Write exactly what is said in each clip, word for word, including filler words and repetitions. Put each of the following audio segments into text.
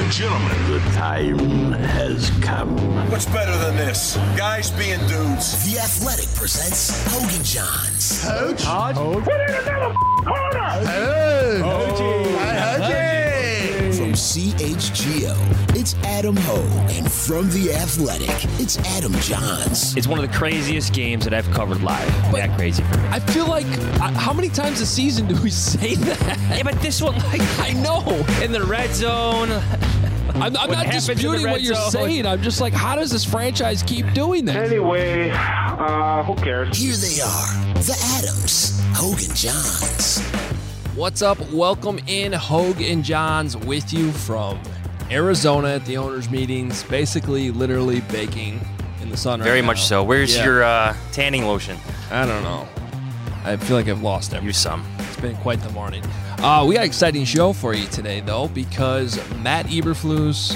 and gentlemen, the time has come. What's better than this? Guys being dudes. The Athletic presents Hogan Johns. Coach? Hodge? Put in another corner! Hey! From C H G O, it's Adam Hogue. And from The Athletic, it's Adam Johns. It's one of the craziest games that I've covered live. But that crazy for me. I feel like, uh, how many times a season do we say that? Yeah, but this one, like, I know. In the red zone. I'm, I'm not disputing what you're zone. saying. I'm just like, how does this franchise keep doing that? Anyway, uh, who cares? Here they are, the Adams, Hogue and Johns. What's up? Welcome in, Hogue and Johns, with you from Arizona at the owners' meetings, basically, literally baking in the sun right Very now. much so. Where's Yeah. your uh, tanning lotion? I don't know. I feel like I've lost everything. Use some. It's been quite the morning. Uh, we got an exciting show for you today, though, because Matt Eberflus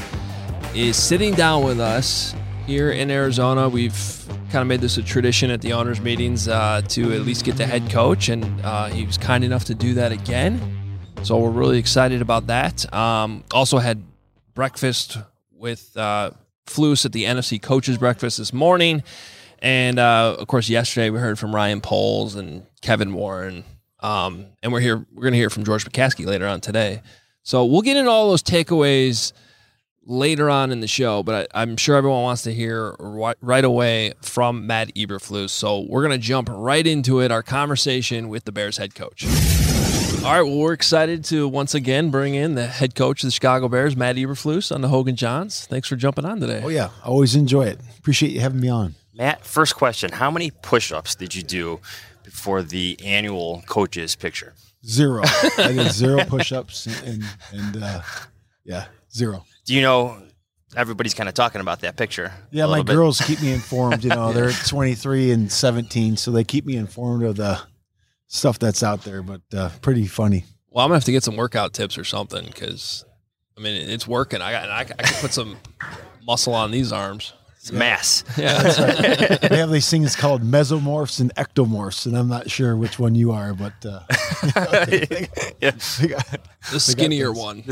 is sitting down with us here in Arizona. We've kind of made this a tradition at the owners' meetings uh, to at least get the head coach, and uh, he was kind enough to do that again. So we're really excited about that. Um, also had breakfast with uh, Flus at the N F C Coaches Breakfast this morning. And, uh, of course, yesterday we heard from Ryan Poles and Kevin Warren. Um, and we're here. We're going to hear from George McCaskey later on today. So we'll get into all those takeaways later on in the show, but I, I'm sure everyone wants to hear right, right away from Matt Eberflus. So we're going to jump right into it, our conversation with the Bears head coach. All right, well, we're excited to once again bring in the head coach of the Chicago Bears, Matt Eberflus, on the Hogue and Johns. Thanks for jumping on today. Oh, yeah. I always enjoy it. Appreciate you having me on. Matt, first question. How many push-ups did you do before the annual coaches picture? Zero. I did zero push-ups and, and, and uh, yeah, zero. Do you know everybody's kind of talking about that picture? Yeah, my girls keep me informed. You know, they're twenty-three and seventeen, so they keep me informed of the stuff that's out there, but uh, pretty funny. Well, I'm going to have to get some workout tips or something because, I mean, it's working. I got, I, I can put some muscle on these arms. It's mass. Yeah, that's right. We have these things called mesomorphs and ectomorphs, and I'm not sure which one you are, but uh, they, yeah. they got, the skinnier one.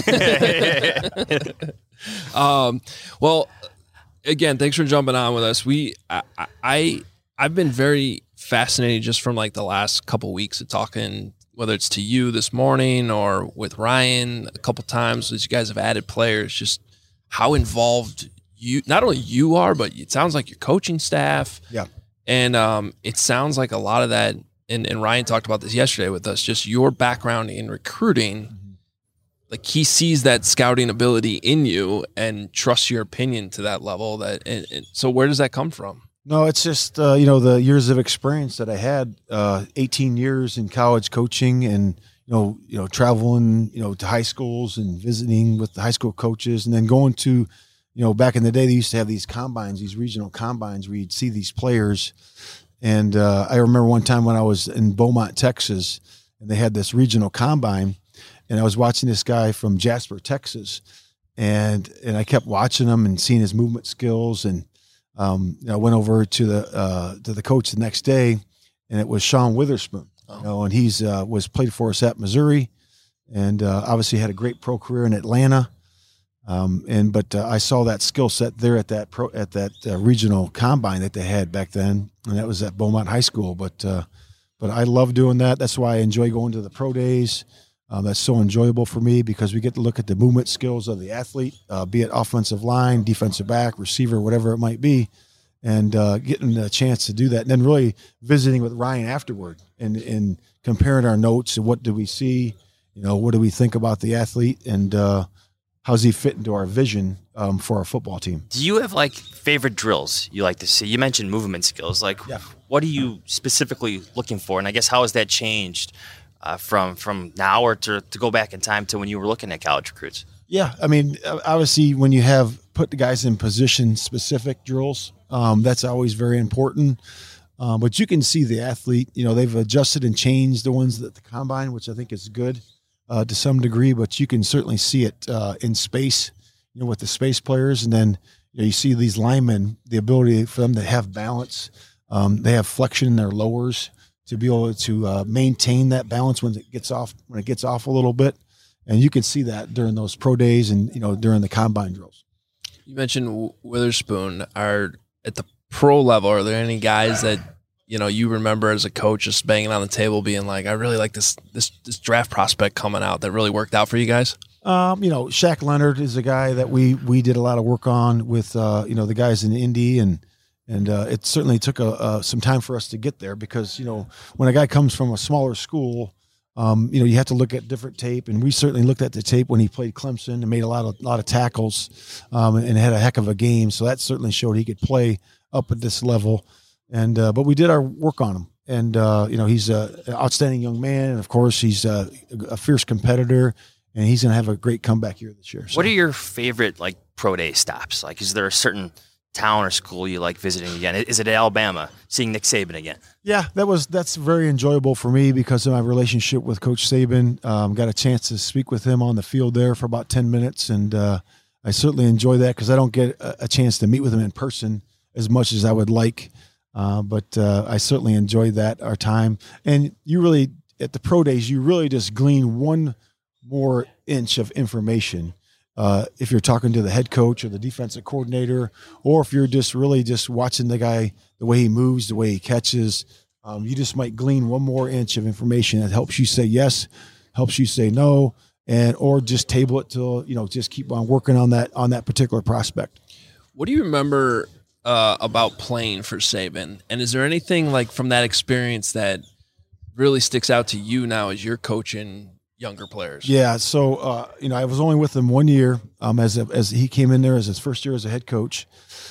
The um, well, again, thanks for jumping on with us. We, I, I, I've been very fascinated just from like the last couple of weeks of talking, whether it's to you this morning or with Ryan a couple times as you guys have added players, just how involved you, not only you are, but it sounds like your coaching staff. Yeah. And um, it sounds like a lot of that, and, and Ryan talked about this yesterday with us, just your background in recruiting. Mm-hmm. Like he sees that scouting ability in you and trusts your opinion to that level. That and, and so where does that come from? No, it's just, uh, you know, the years of experience that I had, uh, eighteen years in college coaching and, you know, you know, traveling, you know, to high schools and visiting with the high school coaches and then going to, you know, back in the day, they used to have these combines, these regional combines where you'd see these players. And uh, I remember one time when I was in Beaumont, Texas, and they had this regional combine, and I was watching this guy from Jasper, Texas, and and I kept watching him and seeing his movement skills. And um, you know, I went over to the uh, to the coach the next day, and it was Sean Witherspoon. Oh. You know, and he's uh, was played for us at Missouri, and uh, obviously had a great pro career in Atlanta. Um, and but uh, I saw that skill set there at that pro at that uh, regional combine that they had back then, and that was at Beaumont High School. But uh, but I love doing that. That's why I enjoy going to the pro days. Um, that's so enjoyable for me because we get to look at the movement skills of the athlete, uh, be it offensive line, defensive back, receiver, whatever it might be, and uh, getting a chance to do that. And then really visiting with Ryan afterward and, and comparing our notes and what do we see, you know, what do we think about the athlete and uh, how's he fit into our vision um, for our football team. Do you have like favorite drills you like to see? You mentioned movement skills. Like yeah. What are you specifically looking for? And I guess how has that changed Uh, from from now or to, to go back in time to when you were looking at college recruits? Yeah, I mean, obviously when you have put the guys in position-specific drills, um, that's always very important. Um, but you can see the athlete, you know, they've adjusted and changed the ones at the combine, which I think is good uh, to some degree, but you can certainly see it uh, in space, you know, with the space players. And then you know, you see these linemen, the ability for them to have balance. Um, they have flexion in their lowers to be able to uh, maintain that balance when it gets off when it gets off a little bit, And you can see that during those pro days and, you know, during the combine drills. You mentioned Witherspoon. Are at the pro level, are there any guys that, you know, you remember as a coach just banging on the table being like, I really like this this this draft prospect coming out that really worked out for you guys? Um, you know, Shaq Leonard is a guy that we we did a lot of work on with, uh, you know, the guys in Indy, and and uh, it certainly took a, uh, some time for us to get there because, you know, when a guy comes from a smaller school, Um, you know, you have to look at different tape, and we certainly looked at the tape when he played Clemson and made a lot of lot of tackles, um, and had a heck of a game. So that certainly showed he could play up at this level. And uh, but we did our work on him, and uh, you know, he's a, an outstanding young man, and of course, he's a, a fierce competitor, and he's going to have a great comeback year this year. So. What are your favorite like pro day stops? Like, is there a certain town or school you like visiting again? Is it Alabama, seeing Nick Saban again? Yeah, that was that's very enjoyable for me because of my relationship with Coach Saban. Um, got a chance to speak with him on the field there for about ten minutes, and uh, I certainly enjoy that because I don't get a, a chance to meet with him in person as much as I would like. Uh, but uh, I certainly enjoyed that, our time. And you really, at the pro days, you really just glean one more inch of information. Uh, if you're talking to the head coach or the defensive coordinator, or if you're just really just watching the guy, the way he moves, the way he catches, um, you just might glean one more inch of information that helps you say yes, helps you say no, and or just table it till, you know, just keep on working on that on that particular prospect. What do you remember uh, about playing for Saban? And is there anything like from that experience that really sticks out to you now as you're coaching younger players? Yeah, so uh, you know, I was only with him one year um, as a, as he came in there as his first year as a head coach,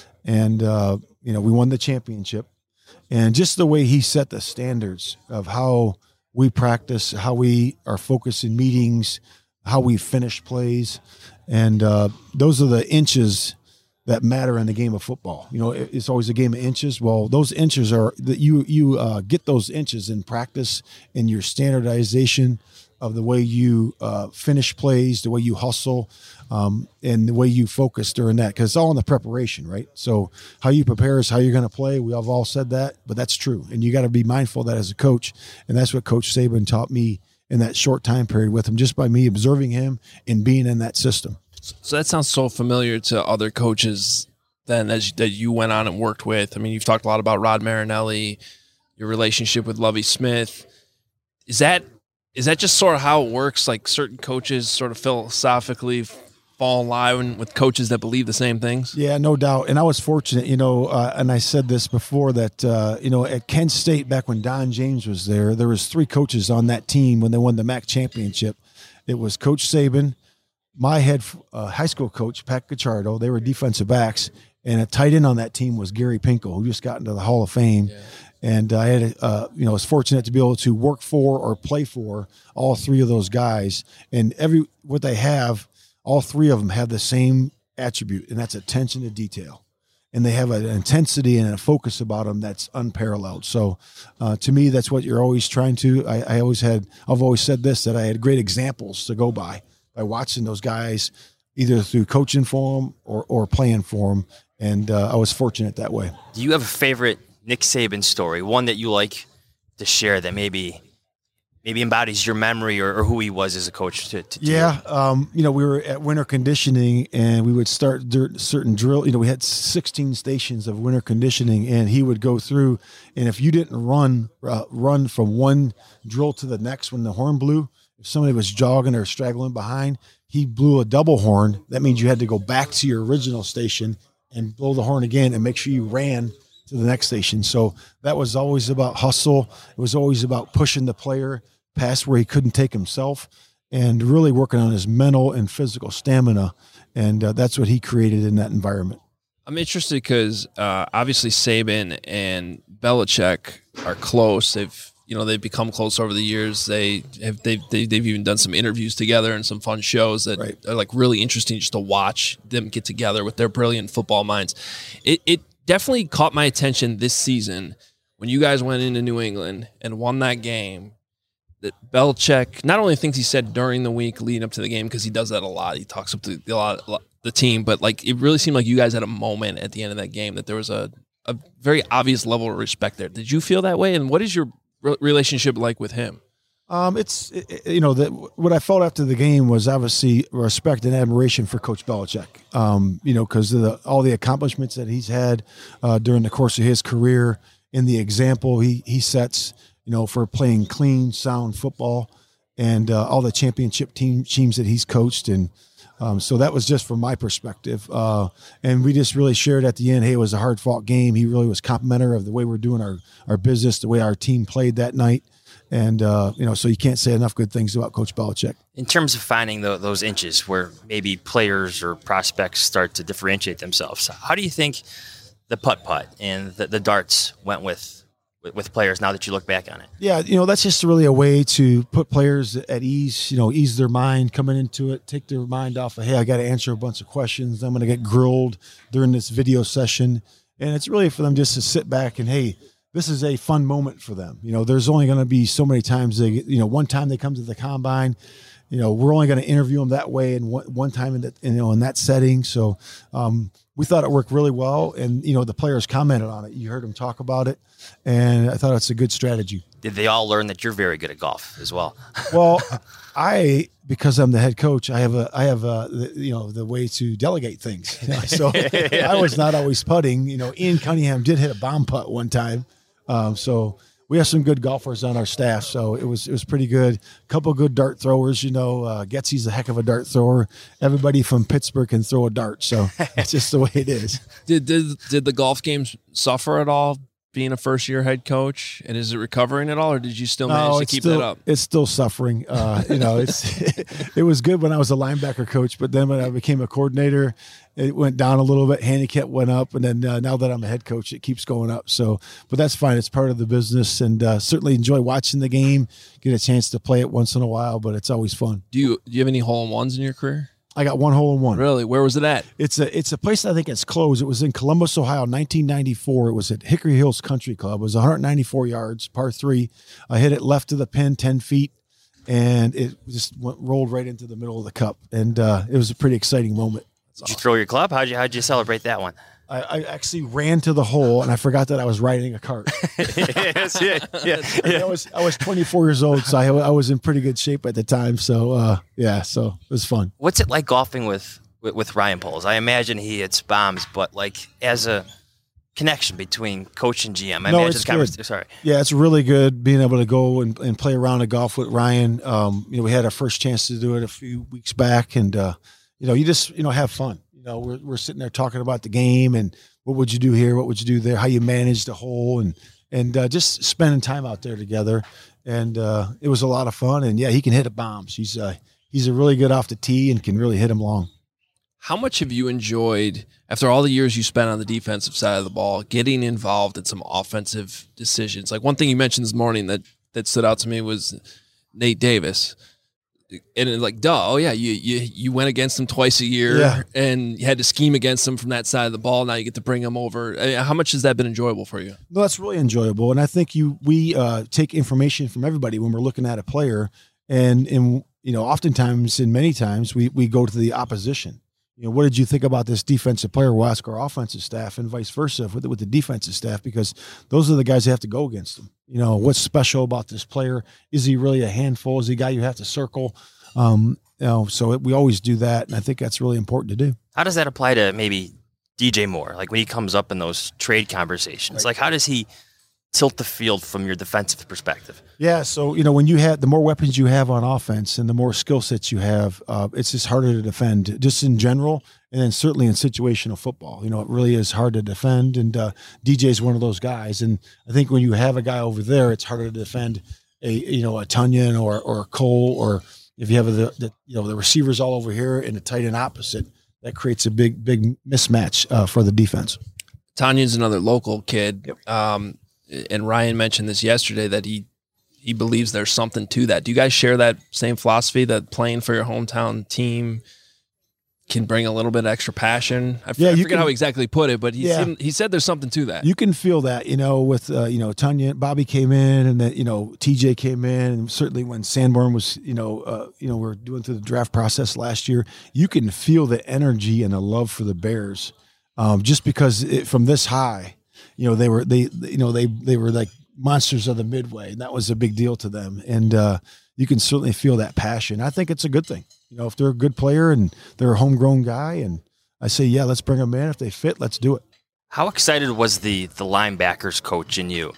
and uh, you know, we won the championship, and just the way he set the standards of how we practice, how we are focused in meetings, how we finish plays, and uh, those are the inches that matter in the game of football. You know, it's always a game of inches. Well, those inches are that you you uh, get those inches in practice in your standardization of the way you uh, finish plays, the way you hustle, um, and the way you focus during that, because it's all in the preparation, right? So how you prepare is how you're going to play. We have all said that, but that's true. And you got to be mindful of that as a coach. And that's what Coach Saban taught me in that short time period with him, just by me observing him and being in that system. So that sounds so familiar to other coaches then as that you went on and worked with. I mean, you've talked a lot about Rod Marinelli, your relationship with Lovie Smith. Is that Is that just sort of how it works? Like certain coaches sort of philosophically fall in line with coaches that believe the same things? Yeah, no doubt. And I was fortunate, you know, uh, and I said this before that, uh, you know, at Kent State, back when Don James was there, there was three coaches on that team when they won the M A C championship. It was Coach Saban, my head uh, high school coach, Pat Gachardo. They were defensive backs. And a tight end on that team was Gary Pinkel, who just got into the Hall of Fame. Yeah. And I had, uh, you know, was fortunate to be able to work for or play for all three of those guys. And every what they have, all three of them have the same attribute, and that's attention to detail. And they have an intensity and a focus about them that's unparalleled. So, uh, to me, that's what you're always trying to. I, I always had. I've always said this, that I had great examples to go by by watching those guys, either through coaching for them or or playing for them. And uh, I was fortunate that way. Do you have a favorite Nick Saban story, one that you like to share that maybe maybe embodies your memory or, or who he was as a coach? To, to yeah, um, you know, we were at winter conditioning, and we would start certain drill. You know, we had sixteen stations of winter conditioning, and he would go through. And if you didn't run uh, run from one drill to the next when the horn blew, if somebody was jogging or straggling behind, he blew a double horn. That means you had to go back to your original station and blow the horn again and make sure you ran to the next station. So that was always about hustle. It was always about pushing the player past where he couldn't take himself and really working on his mental and physical stamina. And uh, that's what he created in that environment. I'm interested because uh, obviously Saban and Belichick are close. They've, you know, they've become close over the years. They have, they've, they've, they've even done some interviews together and some fun shows that right. are like really interesting just to watch them get together with their brilliant football minds. It, it, definitely caught my attention this season when you guys went into New England and won that game, that Belichick, not only things he said during the week leading up to the game, because he does that a lot. He talks up to a lot, a lot the team, but like it really seemed like you guys had a moment at the end of that game that there was a, a very obvious level of respect there. Did you feel that way? And what is your re- relationship like with him? Um, it's it, you know that what I felt after the game was obviously respect and admiration for Coach Belichick. Um, you know, because of the, all the accomplishments that he's had uh, during the course of his career, and the example he he sets, you know, for playing clean, sound football, and uh, all the championship team teams that he's coached. And um, so that was just from my perspective. Uh, and we just really shared at the end, hey, it was a hard fought game. He really was complimentary of the way we're doing our our business, the way our team played that night. And, uh, you know, so you can't say enough good things about Coach Belichick. In terms of finding the, those inches where maybe players or prospects start to differentiate themselves, how do you think the putt-putt and the, the darts went with, with with players now that you look back on it? Yeah, you know, that's just really a way to put players at ease, you know, ease their mind coming into it, take their mind off of, hey, I got to answer a bunch of questions. I'm going to get grilled during this video session. And it's really for them just to sit back and, hey, this is a fun moment for them. You know, there's only going to be so many times they, you know, one time they come to the combine, you know, we're only going to interview them that way and one, one time in that, you know, in that setting. So um, we thought it worked really well. And, you know, the players commented on it. You heard them talk about it. And I thought it's a good strategy. Did they all learn that you're very good at golf as well? Well, I, because I'm the head coach, I have a, I have a, the, you know, the way to delegate things. You know? So I was not always putting. You know, Ian Cunningham did hit a bomb putt one time. Um, so we have some good golfers on our staff. So it was, it was pretty good. A couple of good dart throwers, you know, uh, Getsy's a heck of a dart thrower. Everybody from Pittsburgh can throw a dart. So it's just the way it is. Did, did, did the golf games suffer at all being a first year head coach? And is it recovering at all, or did you still manage no, to keep still, that up? It's still suffering. Uh, you know, it's, it was good when I was a linebacker coach, but then when I became a coordinator, it went down a little bit. Handicap went up. And then uh, now that I'm a head coach, it keeps going up. So, but that's fine. It's part of the business, and uh, certainly enjoy watching the game, get a chance to play it once in a while, but it's always fun. Do you, do you have any hole-in-ones in your career? I got one hole in one. Really? Where was it at? It's a it's a place I think it's closed. It was in Columbus, Ohio, nineteen ninety-four. It was at Hickory Hills Country Club. It was one hundred ninety-four yards, par three. I hit it left of the pin, ten feet, and it just went, rolled right into the middle of the cup. And uh, it was a pretty exciting moment. Did you throw your club? How'd you how'd you celebrate that one? I, I actually ran to the hole, and I forgot that I was riding a cart. yes, yeah, yeah, yeah. I was I was twenty-four years old, so I, I was in pretty good shape at the time. So uh, yeah, so it was fun. What's it like golfing with, with, with Ryan Poles? I imagine he hits bombs, but like as a connection between coach and G M, I no, imagine it's the convers- good. Sorry. Yeah, it's really good being able to go and, and play around a golf with Ryan. Um, you know, we had our first chance to do it a few weeks back, and uh, you know, you just you know have fun. You know, we're we're sitting there talking about the game and what would you do here, what would you do there, how you manage the hole, and and uh, just spending time out there together. And uh, it was a lot of fun. And yeah, he can hit a bombs. He's uh, he's a really good off the tee and can really hit them long. How much have you enjoyed, after all the years you spent on the defensive side of the ball, getting involved in some offensive decisions? Like one thing you mentioned this morning that that stood out to me was Nate Davis. And it, like, duh, oh yeah, you you you went against him twice a year, yeah. and you had to scheme against him from that side of the ball. Now you get to bring him over. I mean, how much has that been enjoyable for you? No, that's really enjoyable, and I think you we uh, take information from everybody when we're looking at a player, and and you know, oftentimes and many times we we go to the opposition. You know, what did you think about this defensive player? We'll ask our offensive staff, and vice versa with the, with the defensive staff, because those are the guys that have to go against them. You know, what's special about this player? Is he really a handful? Is he a guy you have to circle? Um, you know, so it, we always do that, and I think that's really important to do. How does that apply to maybe D J Moore? Like when he comes up in those trade conversations, right. Like how does he tilt the field from your defensive perspective? Yeah, so you know, when you have the more weapons you have on offense and the more skill sets you have, uh, it's just harder to defend, just in general, and then certainly in situational football. You know, it really is hard to defend, and uh, D J's one of those guys. And I think when you have a guy over there, it's harder to defend a you know a Tunyon or or a Cole, or if you have the, the you know the receivers all over here and the tight end opposite, that creates a big big mismatch uh, for the defense. Tanyon's another local kid. Yep. Um, and Ryan mentioned this yesterday that he he believes there's something to that. Do you guys share that same philosophy that playing for your hometown team can bring a little bit of extra passion? I, f- yeah, I you forget can, how he exactly put it, but he yeah. seemed, he said there's something to that. You can feel that, you know, with uh, you know Tunyon, Bobby came in, and then you know T J came in, and certainly when Sanborn was, you know, uh, you know, we're doing through the draft process last year, you can feel the energy and the love for the Bears, um, just because it, from this high. You know, they were, they, you know, they, they were like monsters of the Midway, and that was a big deal to them. And uh, you can certainly feel that passion. I think it's a good thing. You know, if they're a good player and they're a homegrown guy, and I say, yeah, let's bring them in. If they fit, let's do it. How excited was the the linebackers coach in you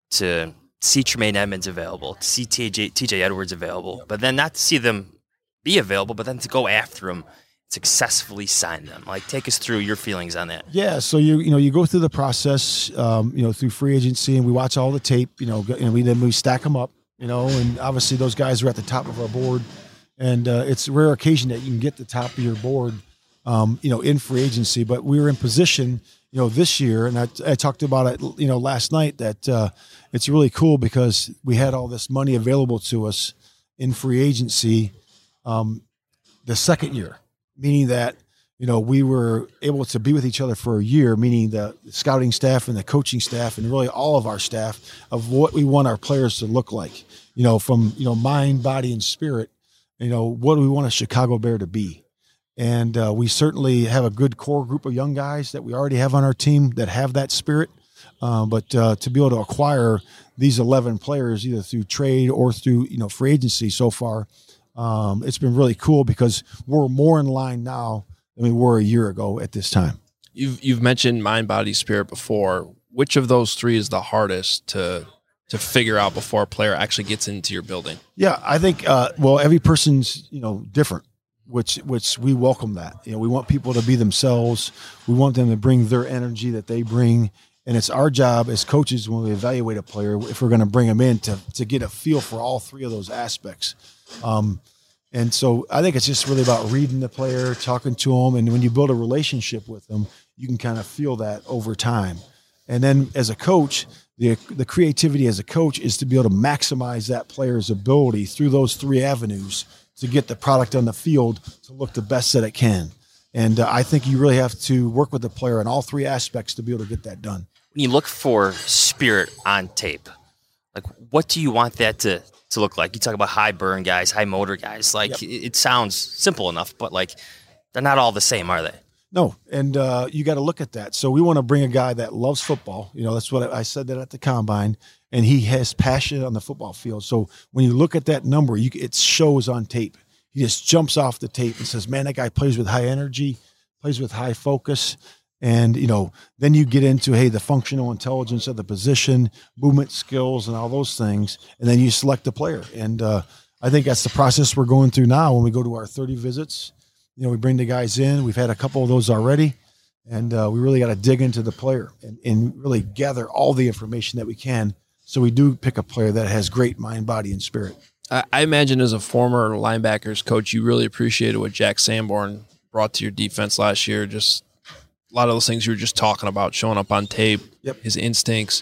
to see Tremaine Edmonds available, to see T J T J Edwards available, but then not to see them be available, but then to go after them, successfully sign them? Like, take us through your feelings on that. Yeah, so you you know you go through the process, um, you know, through free agency, and we watch all the tape. You know, and we then we stack them up. You know, and obviously those guys are at the top of our board, and uh, it's a rare occasion that you can get the top of your board, um, you know, in free agency. But we were in position, you know, this year, and I, I talked about it, you know, last night, that uh, it's really cool because we had all this money available to us in free agency um, the second year, meaning that, you know, we were able to be with each other for a year, meaning the scouting staff and the coaching staff and really all of our staff of what we want our players to look like, you know, from, you know, mind, body, and spirit, you know, what do we want a Chicago Bear to be? And uh, we certainly have a good core group of young guys that we already have on our team that have that spirit. Uh, but uh, to be able to acquire these eleven players, either through trade or through, you know, free agency so far, um, it's been really cool because we're more in line now than we were a year ago at this time. You've you've mentioned mind, body, spirit before. Which of those three is the hardest to to figure out before a player actually gets into your building? Yeah, I think uh, well, every person's, you know, different, which which we welcome that. You know, we want people to be themselves. We want them to bring their energy that they bring, and it's our job as coaches when we evaluate a player, if we're going to bring them in, to to get a feel for all three of those aspects. Um, And so I think it's just really about reading the player, talking to them. And when you build a relationship with them, you can kind of feel that over time. And then as a coach, the the creativity as a coach is to be able to maximize that player's ability through those three avenues to get the product on the field to look the best that it can. And uh, I think you really have to work with the player in all three aspects to be able to get that done. When you look for spirit on tape, like, what do you want that to to look like? You talk about high burn guys, high motor guys. Like, yep. it, it sounds simple enough, but like, they're not all the same, are they? No, and uh, you got to look at that. So we want to bring a guy that loves football. You know, that's what I, I said that at the combine, and he has passion on the football field. So when you look at that number, you, it shows on tape. He just jumps off the tape and says, man, that guy plays with high energy, plays with high focus. And, you know, then you get into, hey, the functional intelligence of the position, movement skills, and all those things. And then you select the player. And uh, I think that's the process we're going through now when we go to our thirty visits. You know, we bring the guys in. We've had a couple of those already. And uh, we really got to dig into the player and, and really gather all the information that we can. So we do pick a player that has great mind, body, and spirit. I, I imagine as a former linebackers coach, you really appreciated what Jack Sanborn brought to your defense last year. Just a lot of those things you were just talking about, showing up on tape, yep. his instincts.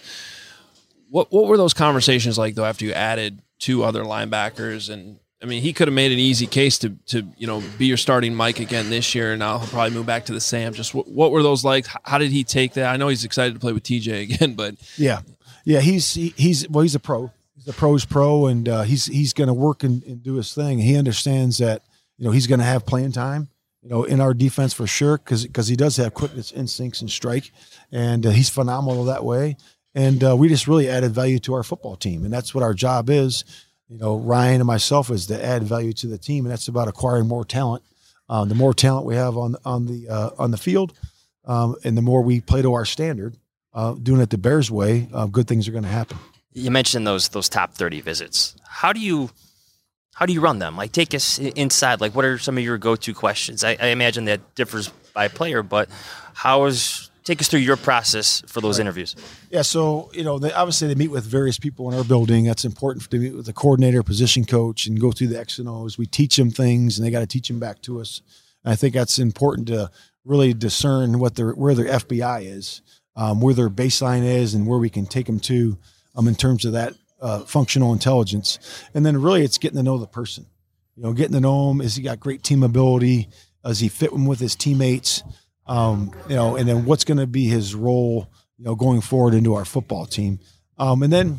What what were those conversations like, though, after you added two other linebackers? And, I mean, he could have made an easy case to, to you know, be your starting Mike again this year, and now he'll probably move back to the Sam. Just what, what were those like? How did he take that? I know he's excited to play with T J again, but. Yeah. Yeah, he's he, he's well, he's a pro. He's a pro's pro, and uh, he's he's going to work and, and do his thing. He understands that, you know, he's going to have playing time, you know, in our defense for sure, because because he does have quickness, instincts, and strike, and uh, he's phenomenal that way. And uh, we just really added value to our football team, and that's what our job is. You know, Ryan and myself is to add value to the team, and that's about acquiring more talent. Um, the more talent we have on on the uh, on the field, um, and the more we play to our standard, uh, doing it the Bears way, uh, good things are going to happen. You mentioned those those top thirty visits. How do you how do you run them? Like, take us inside. Like, what are some of your go-to questions? I, I imagine that differs by player, but how is take us through your process for those right. interviews. Yeah, so, you know, they, obviously they meet with various people in our building. That's important to meet with the coordinator, position coach, and go through the X and O's. We teach them things, and they got to teach them back to us. And I think that's important to really discern what their where their F B I is, um, where their baseline is, and where we can take them to um, in terms of that uh, functional intelligence. And then really it's getting to know the person. You know, getting to know him. Is he got great team ability? Does he fit with his teammates? Um, you know, and then what's going to be his role, you know, going forward into our football team. Um, and then,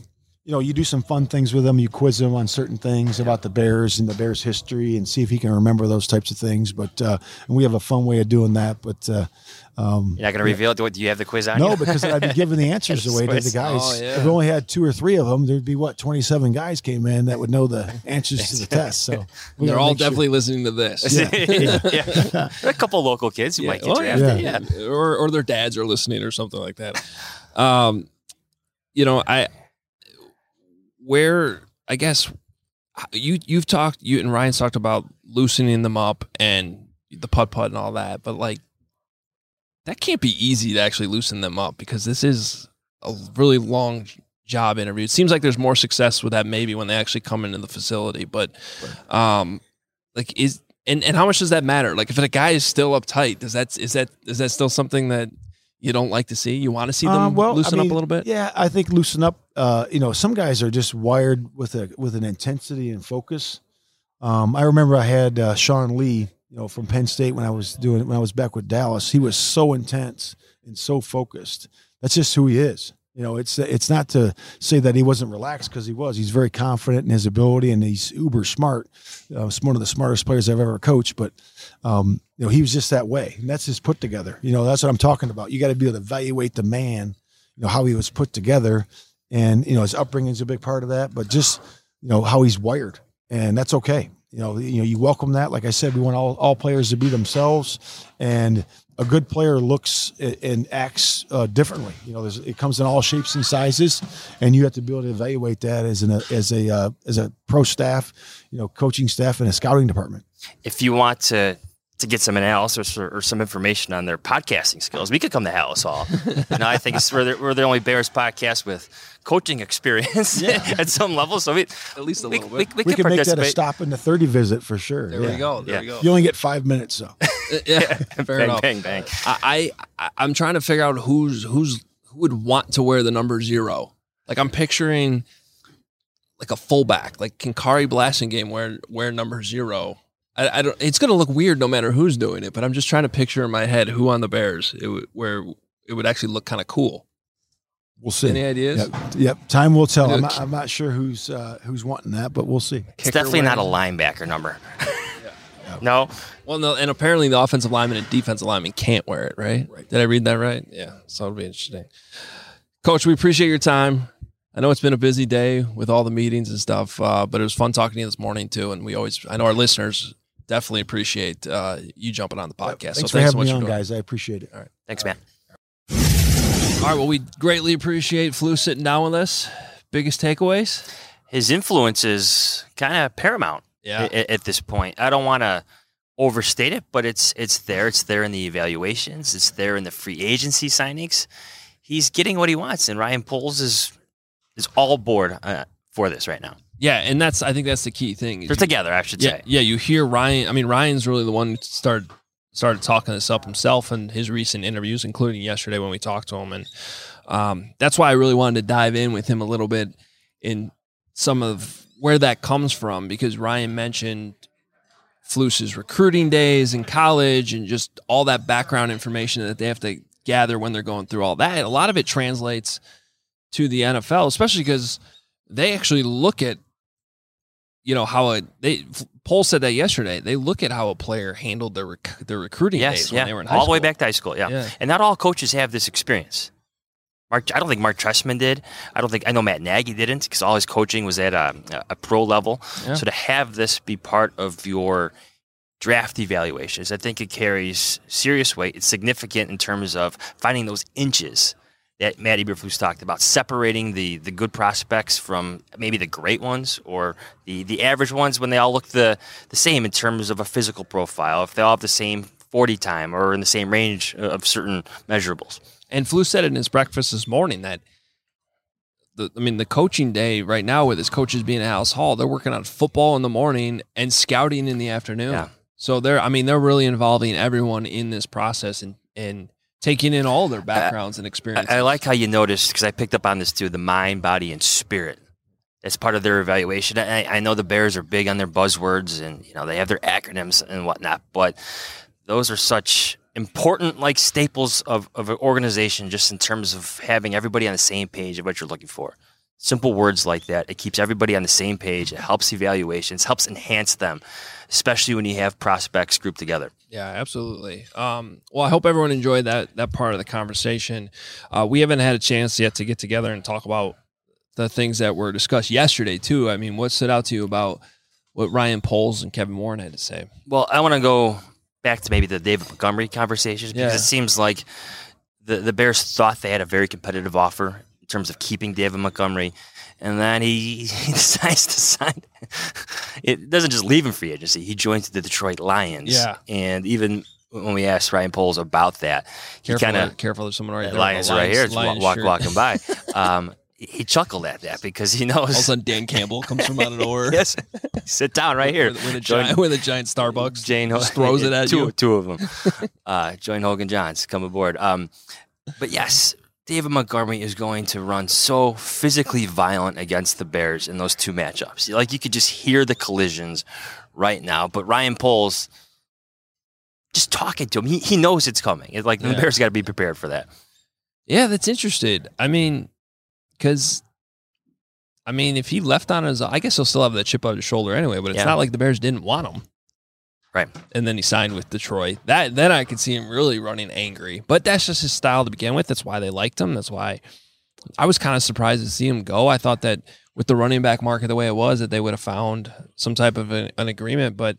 you know, you do some fun things with him. You quiz him on certain things about the Bears and the Bears history and see if he can remember those types of things. But uh, and we have a fun way of doing that. But uh, um, you're not going to reveal it. Do you have the quiz on? No, you? because I'd be giving the answers away to the guys. Oh, yeah. If we only had two or three of them, there'd be what twenty-seven guys came in that would know the answers to the test. So we they're all make sure- definitely listening to this. Yeah. yeah. There are a couple local kids who Yeah. might get Oh, drafted. yeah. Yeah. or or their dads are listening or something like that. Um, you know, I where I guess you you've talked you and Ryan's talked about loosening them up and the putt putt and all that, but like that can't be easy to actually loosen them up because this is a really long job interview. It seems like there's more success with that maybe when they actually come into the facility, but um, like is and and how much does that matter? Like if a guy is still uptight, does that is that is that still something that you don't like to see? You want to see them Uh, well, loosen I mean, up a little bit? Yeah, I think loosen up. Uh, you know, some guys are just wired with a with an intensity and focus. Um, I remember I had uh, Sean Lee, you know, from Penn State when I was doing when I was back with Dallas. He was so intense and so focused. That's just who he is. You know, it's it's not to say that he wasn't relaxed because he was. He's very confident in his ability and he's uber smart. Uh, he's one of the smartest players I've ever coached. But um, you know, he was just that way, and that's his put together. You know, that's what I'm talking about. You got to be able to evaluate the man. You know how he was put together, and you know his upbringing is a big part of that. But just you know how he's wired, and that's okay. You know, you know you welcome that. Like I said, we want all all players to be themselves, and a good player looks and acts uh, differently. You know, there's, it comes in all shapes and sizes, and you have to be able to evaluate that as an as a uh, as a pro staff, you know, coaching staff and a scouting department. If you want to to get some analysis or, or some information on their podcasting skills, we could come to Hallis Hall. You know, I think it's, we're, the, we're the only Bears podcast with coaching experience yeah. at some level. So we At least a we, little we, bit. we, We can can make that a participate. stop in the thirty visit for sure. There yeah. we go. There Yeah. we go. You only get five minutes though. yeah, fair bang, enough. bang, bang. I, I I'm trying to figure out who's who's who would want to wear the number zero. Like I'm picturing like a fullback, like can Kari Blasingame wear wear number zero? I, I don't. It's gonna look weird no matter who's doing it, but I'm just trying to picture in my head who on the Bears it would, where it would actually look kind of cool. We'll see. Any ideas? Yep. Yep. Time will tell. I'm Yeah. not, I'm not sure who's uh, who's wanting that, but we'll see. It's definitely not a linebacker number. No. Well, no, and apparently the offensive lineman and defensive lineman can't wear it, right? Right. Did I read that right? Yeah. So it'll be interesting. Coach, we appreciate your time. I know it's been a busy day with all the meetings and stuff, uh, but it was fun talking to you this morning too. And we always, I know our listeners definitely appreciate uh, you jumping on the podcast. Thanks so for thanks having so much me for on, doing it. guys. I appreciate it. All right. Thanks, man. All right. Well, we greatly appreciate Flu sitting down with us. Biggest takeaways? His influence is kind of paramount Yeah. at, at this point. I don't want to overstate it, but it's it's there. It's there in the evaluations. It's there in the free agency signings. He's getting what he wants, and Ryan Poles is is all aboard uh, for this right now. Yeah, and that's I think that's the key thing. They're together, I should Yeah, say. yeah. You hear Ryan. I mean, Ryan's really the one who started started talking this up himself in his recent interviews, including yesterday when we talked to him, and um, that's why I really wanted to dive in with him a little bit in some of where that comes from, because Ryan mentioned Flus's recruiting days in college and just all that background information that they have to gather when they're going through all that. A lot of it translates to the N F L, especially because they actually look at, you know, how a they Pohl said that yesterday. They look at how a player handled their rec- their recruiting Yes, days yeah. when they were in high all school. the way back to high school, yeah. Yeah. And not all coaches have this experience. Mark, I don't think Mark Trestman did. I don't think I know Matt Nagy didn't, because all his coaching was at a, a pro level. Yeah. So to have this be part of your draft evaluations, I think it carries serious weight. It's significant in terms of finding those inches that Matt Eberflus talked about, separating the the good prospects from maybe the great ones or the, the average ones when they all look the, the same in terms of a physical profile, if they all have the same forty time or in the same range of certain measurables. And Flu said it in his breakfast this morning that, the, I mean, the coaching day right now with his coaches being at Hallis Hall, they're working on football in the morning and scouting in the afternoon. Yeah. So they're, I mean, they're really involving everyone in this process and, and taking in all their backgrounds and experiences. I, I like how you noticed, because I picked up on this too, the mind, body, and spirit. That's part of their evaluation. I, I know the Bears are big on their buzzwords and, you know, they have their acronyms and whatnot, but those are such important like staples of, of an organization, just in terms of having everybody on the same page of what you're looking for. Simple words like that. It keeps everybody on the same page. It helps evaluations, helps enhance them, especially when you have prospects grouped together. Yeah, absolutely. Um, well, I hope everyone enjoyed that that part of the conversation. Uh, we haven't had a chance yet to get together and talk about the things that were discussed yesterday, too. I mean, what stood out to you about what Ryan Poles and Kevin Warren had to say? Well, I want to go back to maybe the David Montgomery conversations because Yeah. it seems like the, the Bears thought they had a very competitive offer in terms of keeping David Montgomery, and then he, he decides to sign. It doesn't just leave him free agency. He joins the Detroit Lions. Yeah. And even when we asked Ryan Poles about that, he Careful, kind of careful, there's someone right there. Lions with a right here, Lions- just Lions walk, shirt. walking by. Um, he chuckled at that because he knows. All of a sudden, Dan Campbell comes from out of nowhere. Yes, sit down right here. With, with, a, Join- giant, with a giant Starbucks. Jane just throws it at two, you. Two of them. uh, join Hogan Johns. Come aboard. Um, but yes, David Montgomery is going to run so physically violent against the Bears in those two matchups. Like you could just hear the collisions right now. But Ryan Poles, just talking to him, he, he knows it's coming. It's like Yeah. the Bears got to be prepared for that. Yeah, that's interesting. I mean, because, I mean, if he left on his, I guess he'll still have that chip on his shoulder anyway, but it's Yeah. not like the Bears didn't want him. Right. And then he signed with Detroit. That Then I could see him really running angry. But that's just his style to begin with. That's why they liked him. That's why I was kind of surprised to see him go. I thought that with the running back market the way it was, that they would have found some type of an, an agreement. But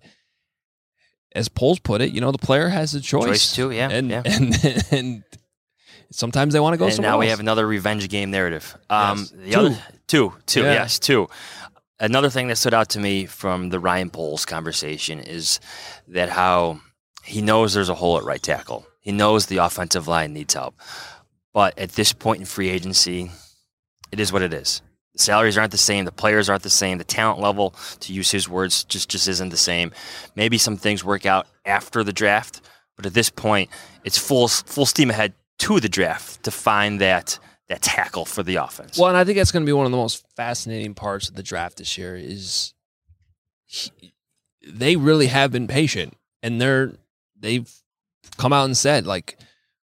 as Poles put it, you know, the player has a choice. Choice too, yeah, And, yeah. and, and sometimes they want to go And somewhere now we else. have another revenge game narrative. Um, Yes. the Two. Other, two, two, Yeah. yes, two. Another thing that stood out to me from the Ryan Poles conversation is that how he knows there's a hole at right tackle. He knows the offensive line needs help. But at this point in free agency, it is what it is. The salaries aren't the same. The players aren't the same. The talent level, to use his words, just, just isn't the same. Maybe some things work out after the draft, but at this point, it's full full steam ahead to the draft to find that that tackle for the offense. Well, and I think that's going to be one of the most fascinating parts of the draft this year is he, they really have been patient, and they're they've come out and said, like,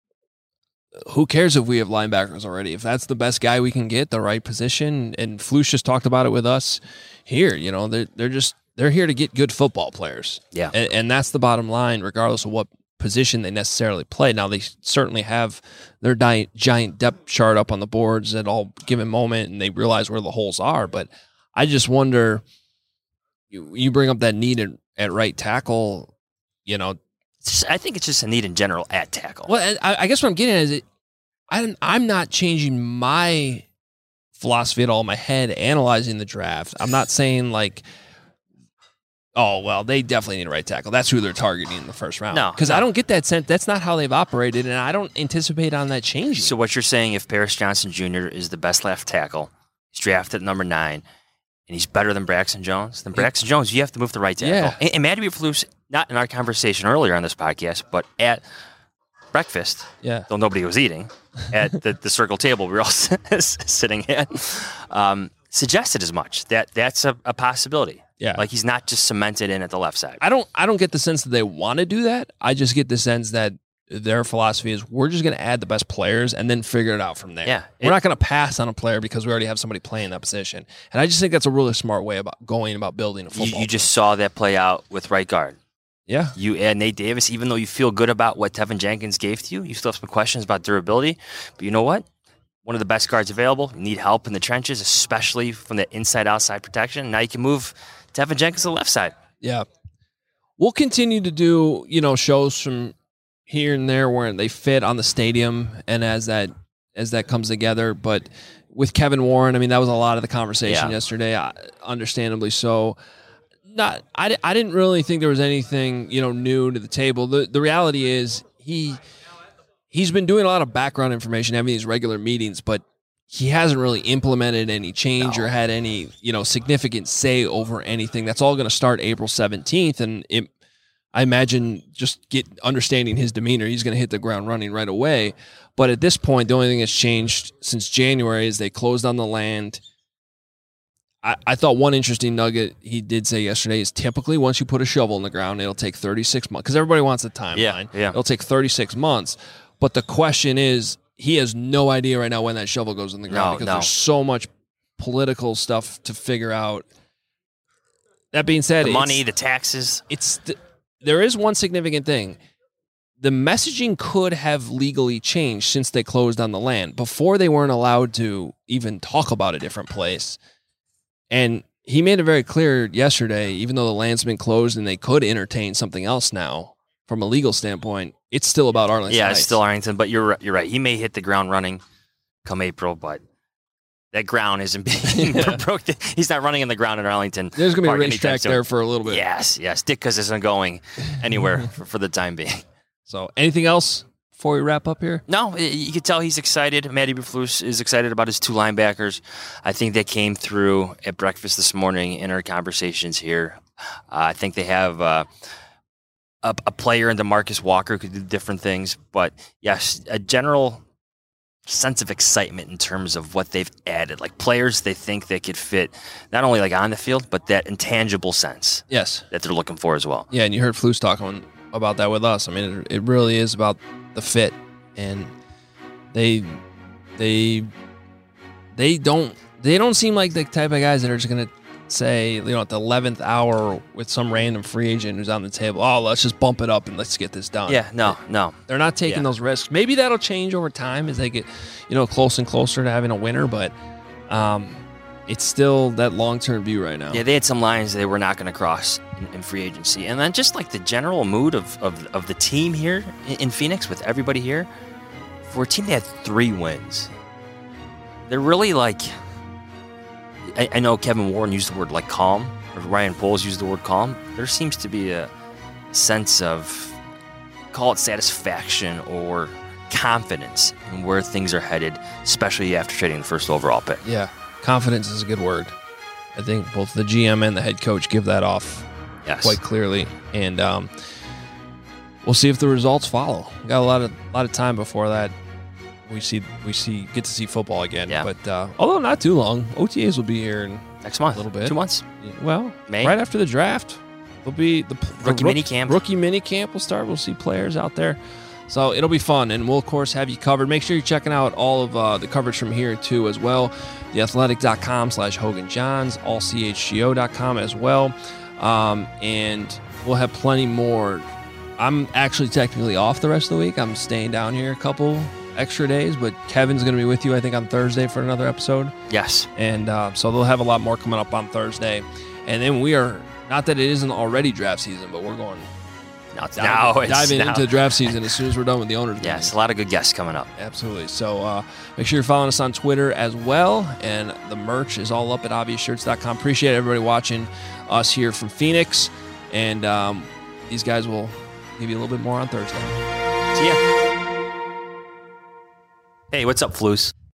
who cares if we have linebackers already? If that's the best guy we can get, the right position, and Flus just talked about it with us here. You know, they're they're just they're here to get good football players. Yeah. and, and that's the bottom line, regardless of what position they necessarily play. Now, they certainly have their di- giant depth chart up on the boards at all given moment, and they realize where the holes are. But I just wonder, you, you bring up that need at, at right tackle, you know. It's just- I think it's just a need in general at tackle. Well, I, I guess what I'm getting at is it, I, I'm not changing my philosophy at all in my head analyzing the draft. I'm not saying like, oh, well, they definitely need a right tackle. That's who they're targeting in the first round. No, Because no. I don't get that sense. That's not how they've operated, and I don't anticipate on that changing. So what you're saying, if Paris Johnson Junior is the best left tackle, he's drafted at number nine, and he's better than Braxton Jones, then Braxton Jones, you have to move to right tackle. Yeah. And, and Matty Eberflus, not in our conversation earlier on this podcast, but at breakfast, Yeah. though nobody was eating, at the, the circle table we were all sitting at, um, suggested as much. That that's a, a possibility. Yeah. Like he's not just cemented in at the left side. I don't I don't get the sense that they want to do that. I just get the sense that their philosophy is we're just going to add the best players and then figure it out from there. Yeah. We're It- not going to pass on a player because we already have somebody playing that position. And I just think that's a really smart way about going about building a You, football. you just saw that play out with right guard. team. Yeah. You add Nate Davis, even though you feel good about what Tevin Jenkins gave to you, you still have some questions about durability. But you know what? One of the best guards available. You need help in the trenches, especially from the inside-outside protection. Now you can move Tevin Jenkins to the left side. Yeah. We'll continue to do, you know, shows from here and there where they fit on the stadium and as that as that comes together. But with Kevin Warren, I mean, that was a lot of the conversation Yeah. yesterday, uh, understandably so. Not, I, di- I didn't really think there was anything, you know, new to the table. The the reality is he he's been doing a lot of background information, having these regular meetings, but he hasn't really implemented any change or had any, you know, significant say over anything. That's all going to start April seventeenth, and it, I imagine just get understanding his demeanor, he's going to hit the ground running right away. But at this point, the only thing that's changed since January is they closed on the land. I, I thought one interesting nugget he did say yesterday is typically once you put a shovel in the ground, it'll take thirty-six months because everybody wants a timeline. Yeah, yeah. It'll take thirty-six months. But the question is, he has no idea right now when that shovel goes in the ground No, because no. there's so much political stuff to figure out. That being said, The it's- money, the taxes. it's th- there is one significant thing. The messaging could have legally changed since they closed on the land. Before, they weren't allowed to even talk about a different place. And he made it very clear yesterday, even though the land's been closed and they could entertain something else now from a legal standpoint, it's still about Arlington Yeah, Heights. it's still Arlington, but you're right- you're right. He may hit the ground running come April, but that ground isn't being broken. He's not running in the ground in Arlington. There's going to be a Park anytime racetrack soon. there for a little bit. Yes, yes. Ditka's isn't going anywhere for, for the time being. So anything else before we wrap up here? No, y- you can tell he's excited. Matt Eberflus is excited about his two linebackers. I think that came through at breakfast this morning in our conversations here. Uh, I think they have uh, a, a player in DeMarcus Walker who could do different things, but yes, a general sense of excitement in terms of what they've added, like players they think they could fit not only like on the field, but that intangible sense Yes. that they're looking for as well. Yeah, and you heard Flus talking about that with us. I mean, it, it really is about the fit, and they they they don't they don't seem like the type of guys that are just gonna say, you know, at the eleventh hour with some random free agent who's on the table, oh, let's just bump it up and let's get this done. Yeah, no, no. They're not taking Yeah. those risks. Maybe that'll change over time as they get, you know, close and closer to having a winner, but um, it's still that long-term view right now. Yeah, they had some lines they were not going to cross in, in free agency. And then just like the general mood of, of, of the team here in, in Phoenix with everybody here, for a team that had three wins, they're really like, I, I know Kevin Warren used the word like calm, or Ryan Poles used the word calm. There seems to be a sense of, call it satisfaction or confidence in where things are headed, especially after trading the first overall pick. Yeah, confidence is a good word. I think both the G M and the head coach give that off Yes. quite clearly, and um, we'll see if the results follow. We got a lot of lot of time before that. We see we see get to see football again. Yeah. But uh, although not too long, O T As will be here in Next month. a little bit. Two months. Well, May? right after the draft, there'll be the, the Rookie rook- mini camp. Rookie mini camp will start. We'll see players out there. So it'll be fun, and we'll, of course, have you covered. Make sure you're checking out all of uh, the coverage from here, too, as well. theathletic.com slash Hogan Johns, all c h g o dot com as well. Um, and we'll have plenty more. I'm actually technically off the rest of the week. I'm staying down here a couple extra days, but Kevin's going to be with you, I think, on Thursday for another episode. Yes. And uh, so they'll have a lot more coming up on Thursday. And then we are, not that it isn't already draft season, but we're going Now it's diving, now it's diving now. into draft season as soon as we're done with the owners. Yes, a lot of good guests coming up. Absolutely. So uh, make sure you're following us on Twitter as well. And the merch is all up at obvious shirts dot com. Appreciate everybody watching us here from Phoenix. And um, these guys will give you a little bit more on Thursday. See ya. Hey, what's up, Flus?